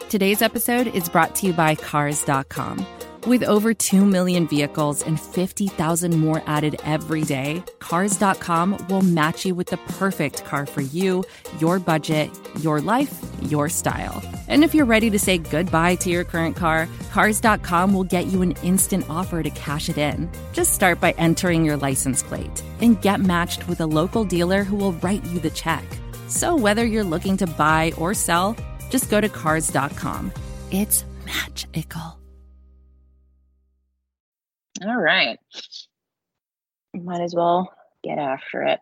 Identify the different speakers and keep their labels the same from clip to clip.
Speaker 1: Today's episode is brought to you by Cars.com. With over 2 million vehicles and 50,000 more added every day, Cars.com will match you with the perfect car for you, your budget, your life, your style. And if you're ready to say goodbye to your current car, Cars.com will get you an instant offer to cash it in. Just start by entering your license plate and get matched with a local dealer who will write you the check. So whether you're looking to buy or sell, just go to Cars.com. It's magical.
Speaker 2: All right. Might as well get after it.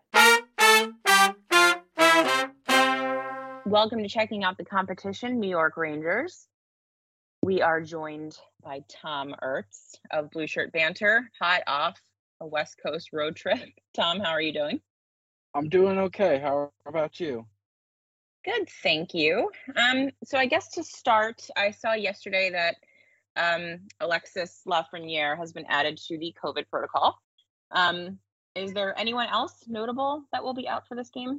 Speaker 2: Welcome to Checking Out the Competition, New York Rangers. We are joined by Tom Ertz of Blue Shirt Banter, hot off a West Coast road trip. Tom, how are you doing?
Speaker 3: I'm doing okay. How about you?
Speaker 2: Good, thank you. So I guess to start, I saw yesterday that Alexis Lafreniere has been added to the COVID protocol. Is there anyone else notable that will be out for this game?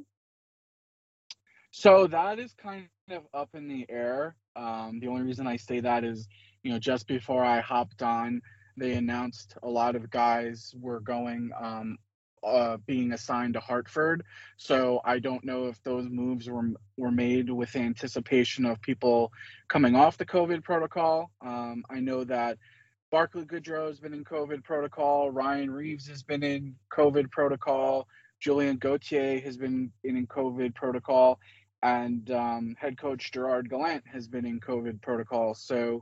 Speaker 3: So that is kind of up in the air. The only reason I say that is, just before I hopped on, they announced a lot of guys were going, being assigned to Hartford. So I don't know if those moves were made with anticipation of people coming off the COVID protocol. I know that Barclay Goodrow has been in COVID protocol. Ryan Reeves has been in COVID protocol. Julien Gauthier has been in COVID protocol. And head coach Gerard Gallant has been in COVID protocol. So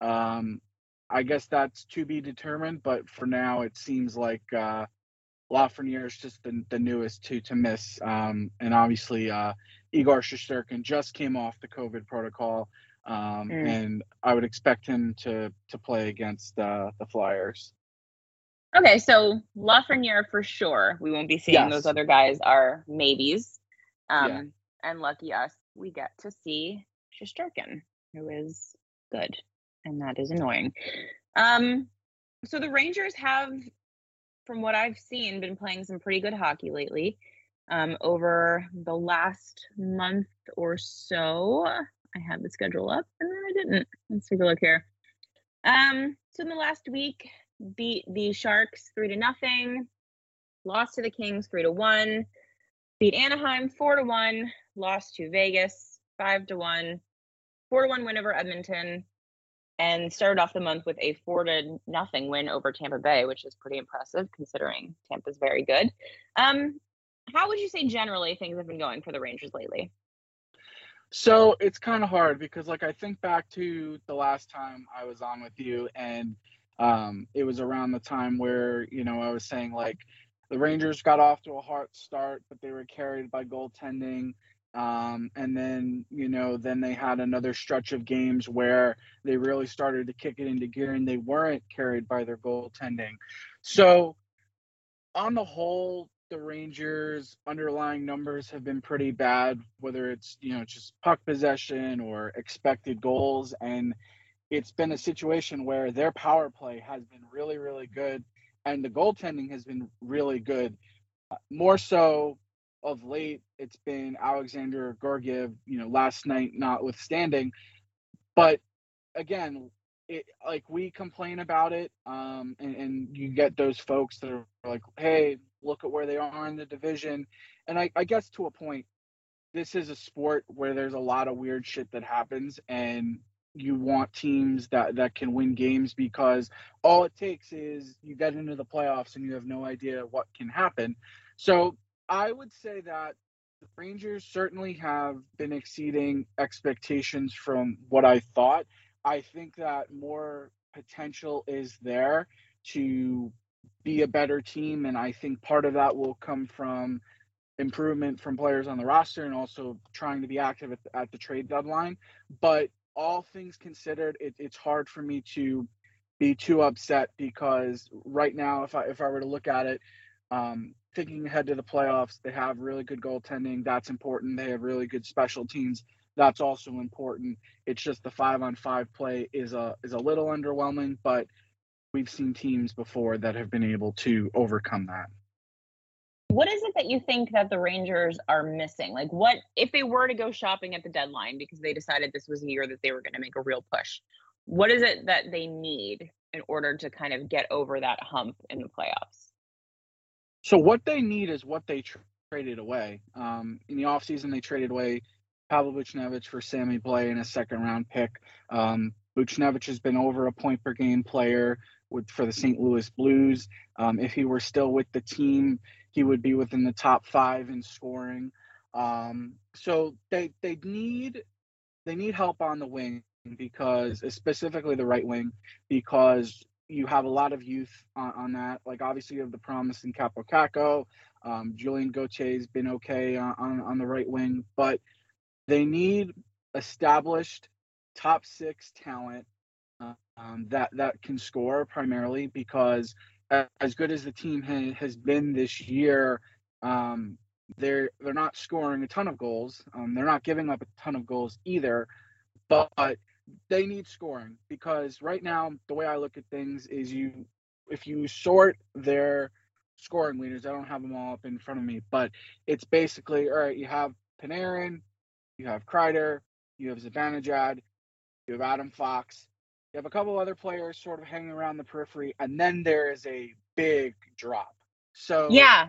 Speaker 3: I guess that's to be determined. But for now, it seems like Lafreniere is just the newest to miss. And obviously, Igor Shesterkin just came off the COVID protocol. And I would expect him to play against the Flyers.
Speaker 2: Okay, so Lafreniere for sure. We won't be seeing
Speaker 3: Yes.
Speaker 2: Those other guys are maybes.
Speaker 3: Yeah.
Speaker 2: And lucky us, we get to see Shesterkin, who is good, and that is annoying. So the Rangers have, from what I've seen, been playing some pretty good hockey lately. Over the last month or so, I had the schedule up and then I didn't. Let's take a look here. So in the last week, beat the Sharks 3-0, lost to the Kings 3-1, beat Anaheim 4-1, lost to Vegas 5-1, 4-1 win over Edmonton, and started off the month with a 4-0 win over Tampa Bay, which is pretty impressive considering Tampa's very good. How would you say generally things have been going for the Rangers lately?
Speaker 3: So it's kind of hard because, I think back to the last time I was on with you, and it was around the time where, I was saying, the Rangers got off to a hot start, but they were carried by goaltending. And then, then they had another stretch of games where they really started to kick it into gear and they weren't carried by their goaltending. So on the whole, the Rangers' underlying numbers have been pretty bad, whether it's, just puck possession or expected goals. And it's been a situation where their power play has been really, really good. And the goaltending has been really good. More so of late, it's been Alexander Georgiev, last night notwithstanding. But again, we complain about it, and you get those folks that are like, hey, look at where they are in the division. And I guess to a point, this is a sport where there's a lot of weird shit that happens, and you want teams that can win games because all it takes is you get into the playoffs and you have no idea what can happen. So I would say that the Rangers certainly have been exceeding expectations from what I thought. I think that more potential is there to be a better team, and I think part of that will come from improvement from players on the roster and also trying to be active at the trade deadline. But all things considered, it's hard for me to be too upset because right now, if I were to look at it, thinking ahead to the playoffs, they have really good goaltending. That's important. They have really good special teams. That's also important. It's just the 5-on-5 play is a little underwhelming, but we've seen teams before that have been able to overcome that.
Speaker 2: What is it that you think that the Rangers are missing? Like, what if they were to go shopping at the deadline because they decided this was a year that they were going to make a real push? What is it that they need in order to kind of get over that hump in the playoffs?
Speaker 3: So what they need is what they traded away. In the offseason, they traded away Pavel Buchnevich for Sammy Blais and a second-round pick. Buchnevich has been over a point per game player for the St. Louis Blues. If he were still with the team, he would be within the top 5 in scoring. So they need help on the wing, because specifically the right wing, because you have a lot of youth on that. Like, obviously you have the promise in Capo Caco. Julien Gauthier has been okay on the right wing, but they need established top 6 talent that can score primarily, because as good as the team has been this year, they're not scoring a ton of goals. They're not giving up a ton of goals either, but they need scoring, because right now the way I look at things is if you sort their scoring leaders, I don't have them all up in front of me, but it's basically, all right, you have Panarin, you have Kreider, you have Zibanejad, you have Adam Fox, you have a couple other players sort of hanging around the periphery, and then there is a big drop. So
Speaker 2: yeah,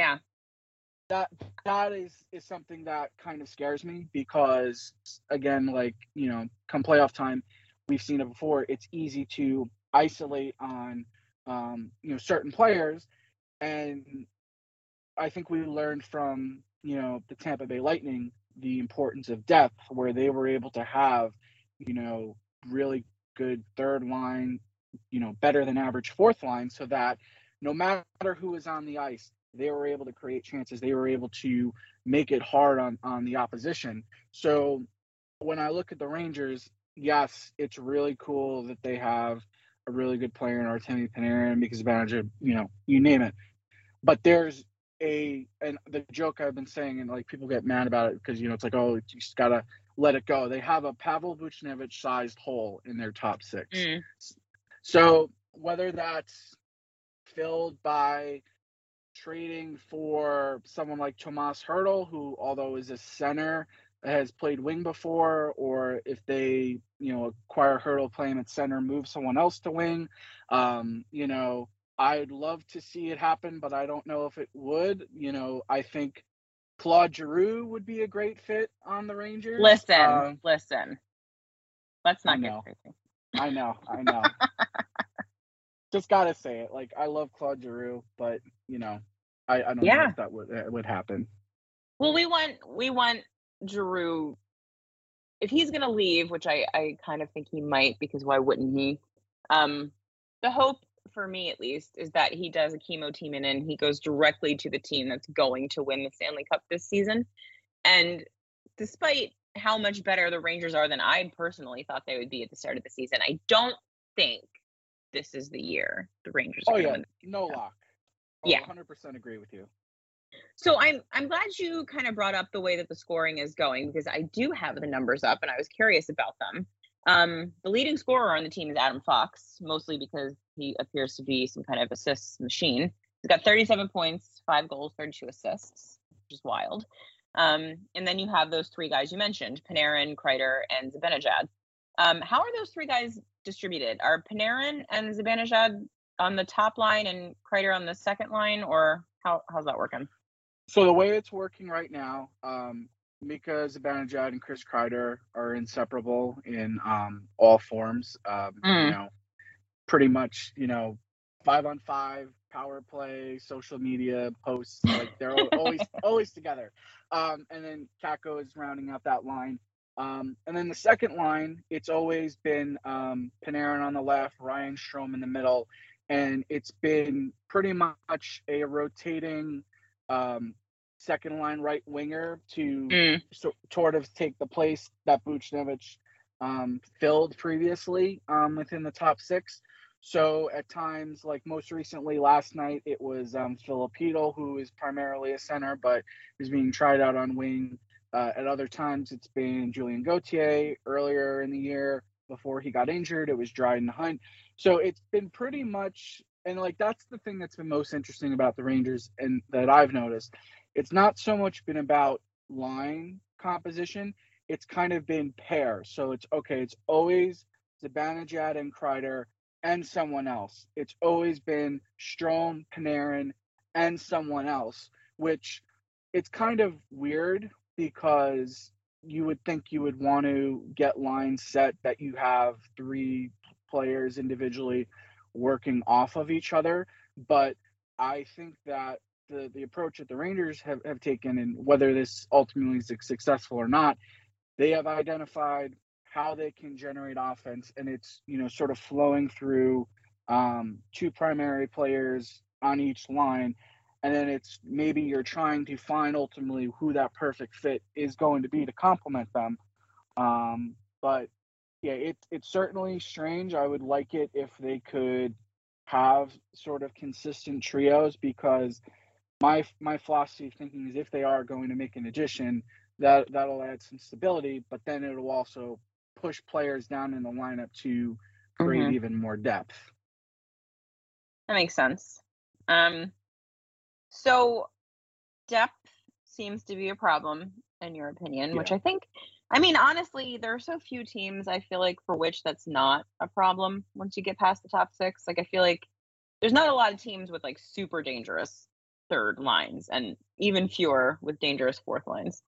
Speaker 3: that is something that kind of scares me, because again, like, come playoff time, we've seen it before. It's easy to isolate on certain players, and I think we learned from the Tampa Bay Lightning the importance of depth, where they were able to have really good third line, better than average fourth line, so that no matter who is on the ice, they were able to create chances. They were able to make it hard on the opposition. So when I look at the Rangers, yes, it's really cool that they have a really good player in Artemi Panarin, because manager, you name it. But there's and the joke I've been saying, and like people get mad about it because it's like, oh, you just gotta let it go. They have a Pavel Buchnevich sized hole in their top 6. So whether that's filled by trading for someone like Tomas Hertl, who, although is a center, has played wing before, or if they, acquire Hertl, play him at center, move someone else to wing, I'd love to see it happen, but I don't know if it would. I think Claude Giroux would be a great fit on the Rangers.
Speaker 2: Listen. Let's not get crazy.
Speaker 3: I know. Just gotta say it. Like, I love Claude Giroux, but I don't know if that would happen.
Speaker 2: Well, we want Giroux, if he's gonna leave, which I kind of think he might, because why wouldn't he? The hope, for me at least, is that he does a chemo team and he goes directly to the team that's going to win the Stanley Cup this season. And despite how much better the Rangers are than I personally thought they would be at the start of the season, I don't think this is the year the Rangers are going to win.
Speaker 3: No lock.
Speaker 2: Yeah,
Speaker 3: 100% agree with you.
Speaker 2: So I'm glad you kind of brought up the way that the scoring is going, because I do have the numbers up and I was curious about them. The leading scorer on the team is Adam Fox, mostly because he appears to be some kind of assists machine. He's got 37 points, 5 goals, 32 assists, which is wild. And then you have those 3 guys you mentioned, Panarin, Kreider, and Zibanejad. How are those 3 guys distributed? Are Panarin and Zibanejad on the top line and Kreider on the second line, or how's that working?
Speaker 3: So the way it's working right now, Mika Zibanejad and Chris Kreider are inseparable in all forms. Pretty much, 5-on-5, power play, social media posts, like they're always together. And then Kako is rounding out that line. And then the second line, it's always been Panarin on the left, Ryan Strome in the middle, and it's been pretty much a rotating second line right winger to sort of take the place that Buchnevich filled previously within the top 6. So at times, like most recently last night, it was Filipino, who is primarily a center, but is being tried out on wing. At other times, it's been Julien Gauthier. Earlier in the year, before he got injured, it was Dryden Hunt. So it's been pretty much And like that's the thing that's been most interesting about the Rangers and that I've noticed. It's not so much been about line composition, it's kind of been pair. So it's okay, it's always Zibanejad and Kreider and someone else. It's always been Strome, Panarin, and someone else, which it's kind of weird because you would think you would want to get lines set that you have three players individually working off of each other. But I think that the approach that the Rangers have taken, and whether this ultimately is successful or not, they have identified how they can generate offense, and it's sort of flowing through two primary players on each line, and then it's maybe you're trying to find ultimately who that perfect fit is going to be to complement them. But yeah, it's certainly strange. I would like it if they could have sort of consistent trios, because my philosophy of thinking is if they are going to make an addition, that'll add some stability, but then it'll also push players down in the lineup to create even more depth.
Speaker 2: That makes sense. So depth seems to be a problem in your opinion, which I think, I mean, honestly, there are so few teams I feel like for which that's not a problem once you get past the top six. Like I feel like there's not a lot of teams with like super dangerous third lines and even fewer with dangerous fourth lines.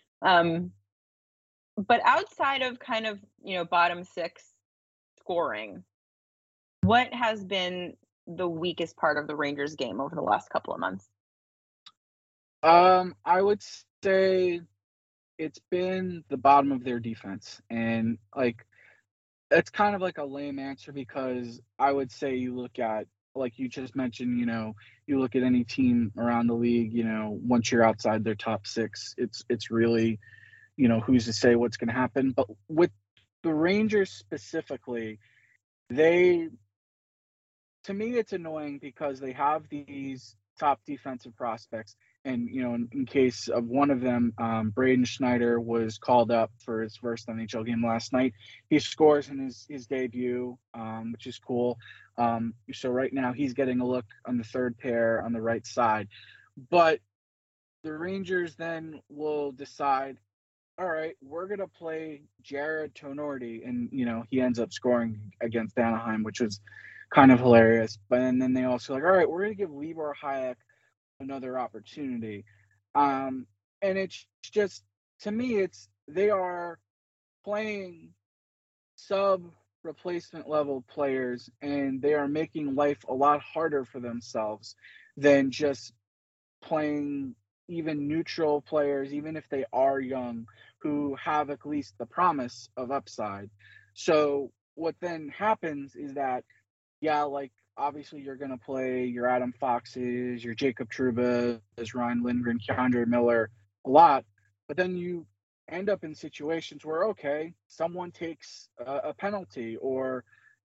Speaker 2: But outside of kind of, bottom six scoring, what has been the weakest part of the Rangers game over the last couple of months?
Speaker 3: I would say it's been the bottom of their defense. And like, it's kind of like a lame answer, because I would say you look at, like you just mentioned, you look at any team around the league, once you're outside their top six, it's really, who's to say what's going to happen. But with the Rangers specifically, to me, it's annoying because they have these top defensive prospects. And, in case of one of them, Braden Schneider was called up for his first NHL game last night. He scores in his debut, which is cool. So right now he's getting a look on the third pair on the right side. But the Rangers then will decide, all right, we're going to play Jared Tonorty. And, he ends up scoring against Anaheim, which was kind of hilarious. But then they also like, all right, we're going to give Libor Hajek another opportunity. And it's just, to me, they are playing sub replacement level players, and they are making life a lot harder for themselves than just playing even neutral players, even if they are young, who have at least the promise of upside. So what then happens is that, like, obviously you're going to play your Adam Foxes, your Jacob Trouba, Ryan Lindgren, K'Andre Miller a lot, but then you end up in situations where, okay, someone takes a penalty, or,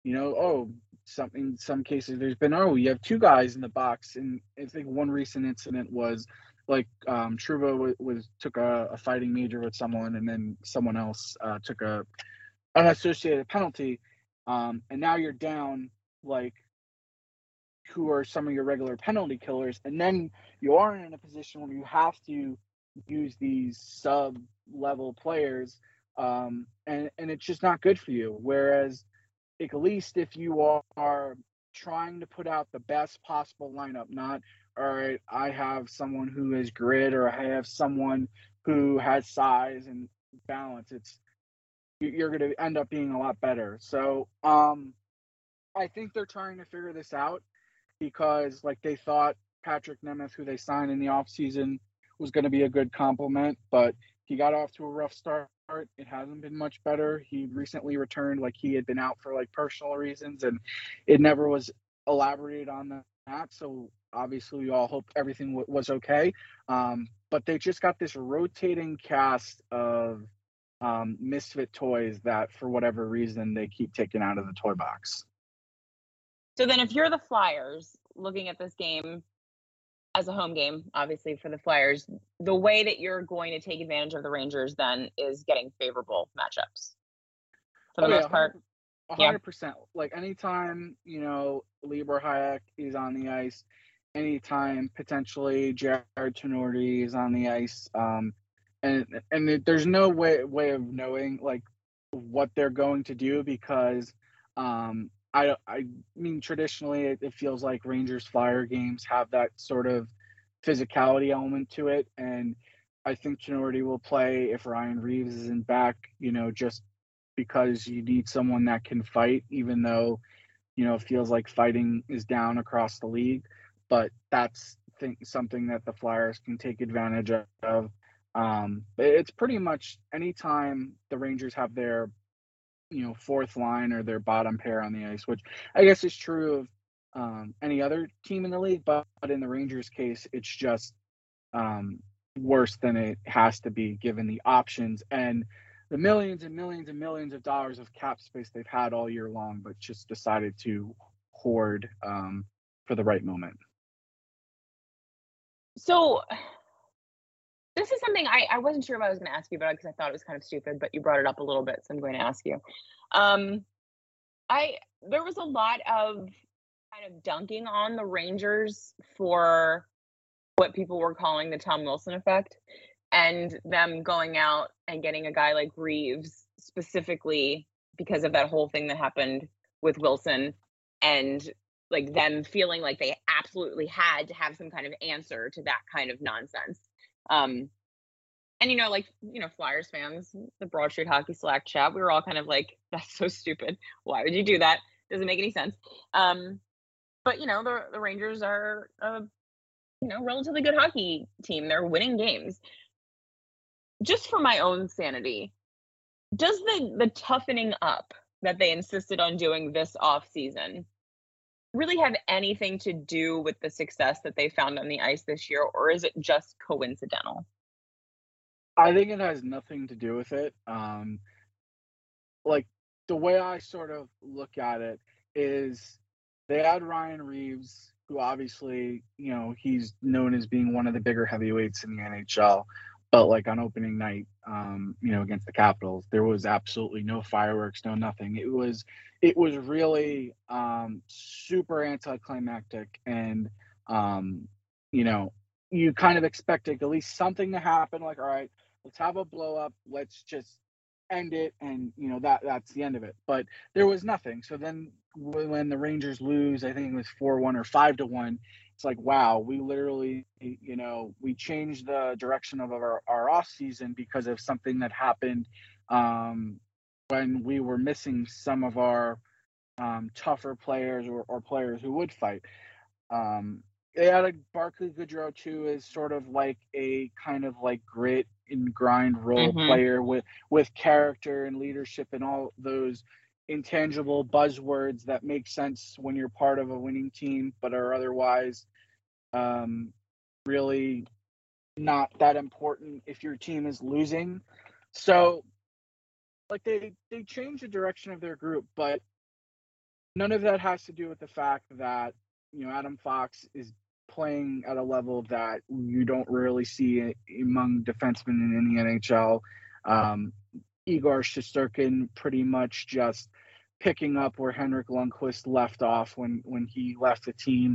Speaker 3: some cases there's been, you have two guys in the box. And I think one recent incident was like Trouba took a fighting major with someone, and then someone else took an unassociated penalty. And now you're down, like, who are some of your regular penalty killers, and then you are in a position where you have to use these sub-level players, and it's just not good for you. Whereas, at least if you are trying to put out the best possible lineup, not, all right, I have someone who is grit, or I have someone who has size and balance, you're going to end up being a lot better. So I think they're trying to figure this out, because like they thought Patrick Nemeth, who they signed in the offseason, was going to be a good compliment, but he got off to a rough start. It hasn't been much better. He recently returned, like he had been out for like personal reasons, and it never was elaborated on that. So obviously we all hope everything was okay. But they just got this rotating cast of misfit toys that for whatever reason they keep taking out of the toy box.
Speaker 2: So then if you're the Flyers looking at this game as a home game, obviously for the Flyers, the way that you're going to take advantage of the Rangers then is getting favorable matchups for the most part. Yeah.
Speaker 3: 100%. Like anytime, Libor Hayek is on the ice, anytime potentially Jared Tenorti is on the ice, there's no way of knowing like what they're going to do because I mean traditionally it feels like Rangers Flyer games have that sort of physicality element to it, and I think Tenorti will play if Ryan Reeves isn't back, just because you need someone that can fight, even though, it feels like fighting is down across the league. But that's something that the Flyers can take advantage of. It's pretty much anytime the Rangers have their, fourth line or their bottom pair on the ice, which I guess is true of any other team in the league, but in the Rangers case, it's just worse than it has to be given the options and the millions and millions and millions of dollars of cap space they've had all year long, but just decided to hoard for the right moment.
Speaker 2: So this is something I wasn't sure if I was going to ask you about because I thought it was kind of stupid, but you brought it up a little bit, so I'm going to ask you. There was a lot of kind of dunking on the Rangers for what people were calling the Tom Wilson effect, and them going out and getting a guy like Reeves specifically because of that whole thing that happened with Wilson, and like them feeling like they absolutely had to have some kind of answer to that kind of nonsense. And Flyers fans, the Broad Street Hockey Slack chat, we were all kind of like, that's so stupid. Why would you do that? Doesn't make any sense. But the Rangers are a relatively good hockey team. They're winning games. Just for my own sanity, does the toughening up that they insisted on doing this off season really have anything to do with the success that they found on the ice this year, or is it just coincidental?
Speaker 3: I think it has nothing to do with it. Like the way I sort of look at it is they had Ryan Reeves, who obviously, he's known as being one of the bigger heavyweights in the NHL. But like on opening night, against the Capitals, there was absolutely no fireworks, no nothing. It was really super anticlimactic, and you kind of expected at least something to happen. Like, all right, let's have a blow up, let's just end it, and that's the end of it. But there was nothing. So then when the Rangers lose, I think it was 4-1 or 5-1. It's like, wow, we literally, we changed the direction of our off season because of something that happened when we were missing some of our tougher players or players who would fight. They added Barclay Goodrow too as sort of like a kind of like grit and grind role player with character and leadership and all those intangible buzzwords that make sense when you're part of a winning team, but are otherwise really not that important if your team is losing. So like they changed the direction of their group, but none of that has to do with the fact that Adam Fox is playing at a level that you don't really see among defensemen in the NHL. Igor Shesterkin pretty much just picking up where Henrik Lundqvist left off when he left the team.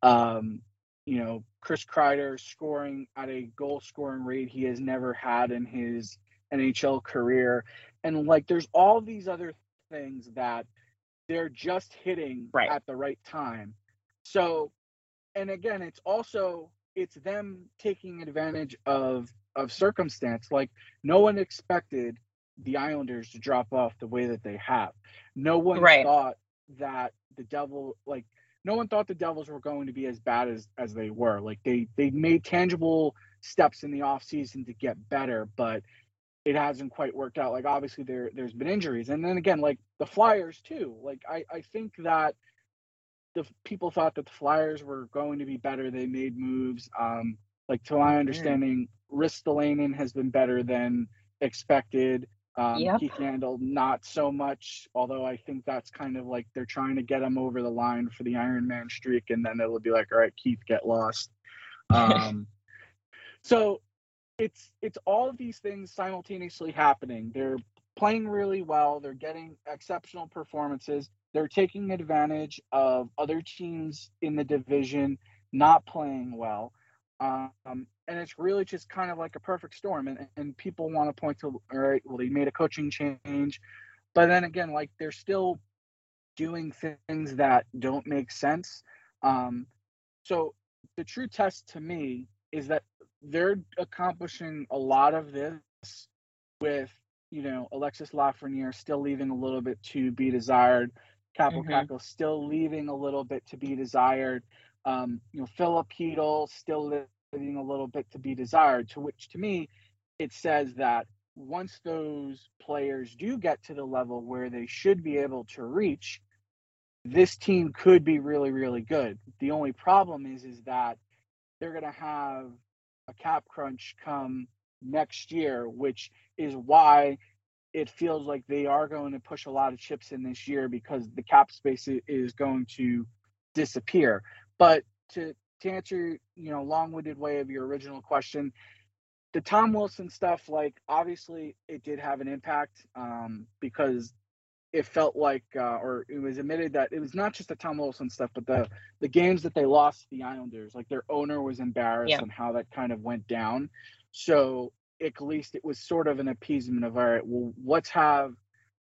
Speaker 3: Chris Kreider scoring at a goal scoring rate he has never had in his NHL career. And like there's all these other things that they're just hitting at the right time. So, and again, it's them taking advantage of circumstance. Like no one expected the Islanders to drop off the way that they have. No one thought that no one thought the Devils were going to be as bad as they were. Like they made tangible steps in the offseason to get better, but it hasn't quite worked out. Like obviously there's been injuries. And then again, like the Flyers too. Like I think that the people thought that the Flyers were going to be better. They made moves. Like to my understanding, Ristolainen has been better than expected. Keith Yandle, not so much, although I think that's kind of like they're trying to get him over the line for the Iron Man streak, and then it'll be like, all right, Keith, get lost. So it's all of these things simultaneously happening. They're playing really well. They're getting exceptional performances. They're taking advantage of other teams in the division not playing well. And it's really just kind of like a perfect storm. And people want to point to, all right, well, they made a coaching change. But then again, like they're still doing things that don't make sense. Um, so the true test to me is that they're accomplishing a lot of this with, Alexis Lafreniere still leaving a little bit to be desired. Capo
Speaker 2: Mm-hmm.
Speaker 3: Caco still leaving a little bit to be desired. Philip Hedl still leaving a little bit to be desired, to which to me, it says that once those players do get to the level where they should be able to reach, this team could be really, really good. The only problem is that they're going to have a cap crunch come next year, which is why it feels like they are going to push a lot of chips in this year, because the cap space is going to disappear. But to answer, long-winded way of your original question, the Tom Wilson stuff, like obviously it did have an impact, because it felt like, or it was admitted that it was not just the Tom Wilson stuff, but the games that they lost to the Islanders, like their owner was embarrassed
Speaker 2: Yeah.
Speaker 3: on how that kind of went down. So at least it was sort of an appeasement of, all right, well, let's have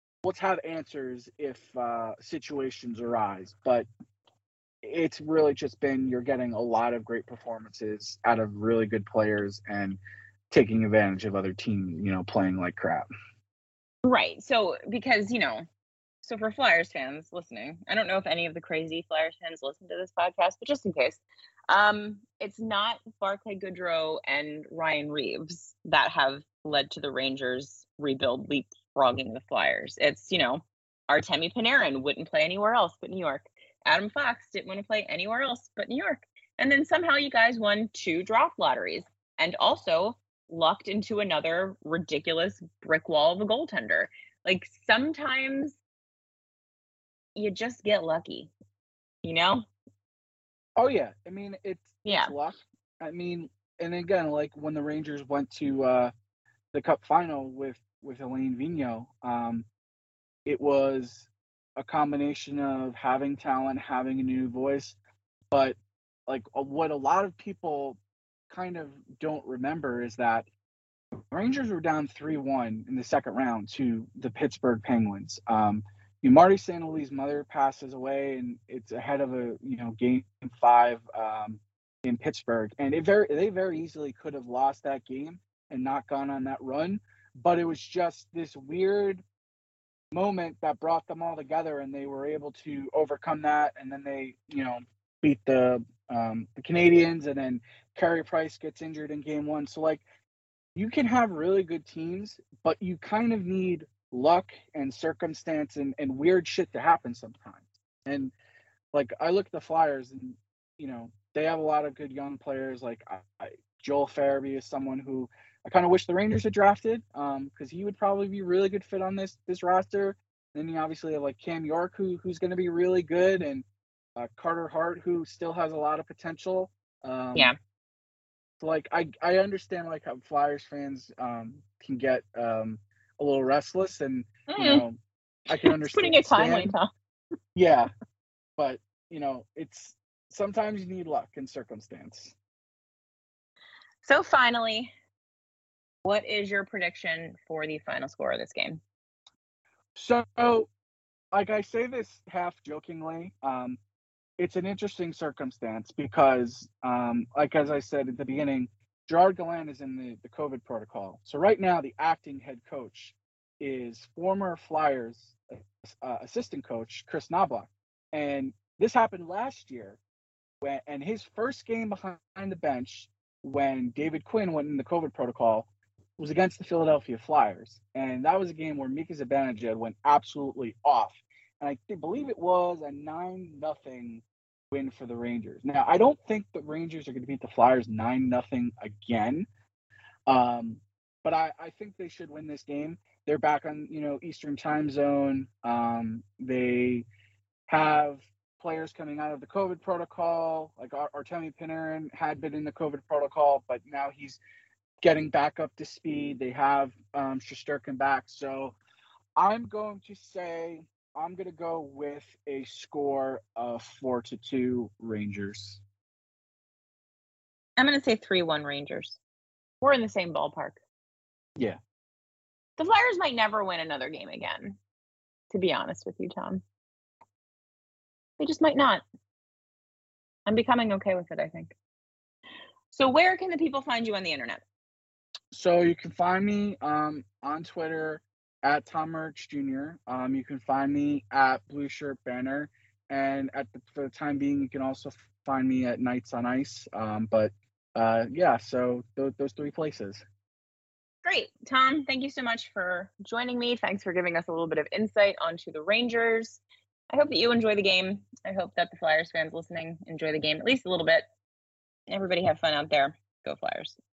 Speaker 3: answers if situations arise. But it's really just been, you're getting a lot of great performances out of really good players and taking advantage of other teams, playing like crap.
Speaker 2: Right. So because, so for Flyers fans listening, I don't know if any of the crazy Flyers fans listen to this podcast, but just in case, it's not Barclay Goodrow and Ryan Reeves that have led to the Rangers rebuild leapfrogging the Flyers. It's, Artemi Panarin wouldn't play anywhere else but New York. Adam Fox didn't want to play anywhere else but New York. And then somehow you guys won 2 draft lotteries and also lucked into another ridiculous brick wall of a goaltender. Like sometimes you just get lucky,
Speaker 3: Oh yeah, I mean it's
Speaker 2: Yeah.
Speaker 3: luck. I mean, and again, like when the Rangers went to the Cup final with Alain Vigneault, it was a combination of having talent, having a new voice, but like what a lot of people kind of don't remember is that Rangers were down 3-1 in the second round to the Pittsburgh Penguins. Marty St. Louis' mother passes away, and it's ahead of a game 5 in Pittsburgh, and they very easily could have lost that game and not gone on that run, but it was just this weird moment that brought them all together, and they were able to overcome that, and then they beat the Canadiens, and then Carey Price gets injured in game 1, so like you can have really good teams, but you kind of need luck and circumstance and weird shit to happen sometimes. And like I look at the Flyers, and they have a lot of good young players. Like Joel Farabee is someone who I kind of wish the Rangers had drafted, because he would probably be a really good fit on this roster. Then you obviously have like Cam York, who's going to be really good, and Carter Hart, who still has a lot of potential.
Speaker 2: Yeah.
Speaker 3: So like I understand like how Flyers fans can get a little restless, and I can
Speaker 2: It's putting it kindly,
Speaker 3: understand.
Speaker 2: Tom.
Speaker 3: Yeah, but it's sometimes you need luck and circumstance.
Speaker 2: So finally, what is your prediction for the final score of this game?
Speaker 3: So, like I say this half jokingly, it's an interesting circumstance because, like as I said at the beginning, Gerard Gallant is in the COVID protocol. So right now, the acting head coach is former Flyers assistant coach Chris Knoblauch, and this happened last year and his first game behind the bench when David Quinn went in the COVID protocol was against the Philadelphia Flyers. And that was a game where Mika Zibanejad went absolutely off. And I believe it was a 9-0 win for the Rangers. Now, I don't think the Rangers are going to beat the Flyers 9-0 again. But I think they should win this game. They're back on, Eastern time zone. They have players coming out of the COVID protocol, like Artemi Panarin had been in the COVID protocol, but now he's getting back up to speed. They have Shesterkin back. So I'm going to go with a score of 4-2 Rangers.
Speaker 2: I'm going to say 3-1 Rangers. We're in the same ballpark.
Speaker 3: Yeah.
Speaker 2: The Flyers might never win another game again, to be honest with you, Tom. They just might not. I'm becoming okay with it, I think. So where can the people find you on the internet?
Speaker 3: So you can find me on Twitter at Tom Merch Jr. You can find me at Blue Shirt Banner, and for the time being, you can also find me at Nights on Ice. Yeah, so those three places.
Speaker 2: Great. Tom, thank you so much for joining me. Thanks for giving us a little bit of insight onto the Rangers. I hope that you enjoy the game. I hope that the Flyers fans listening enjoy the game at least a little bit. Everybody have fun out there. Go Flyers.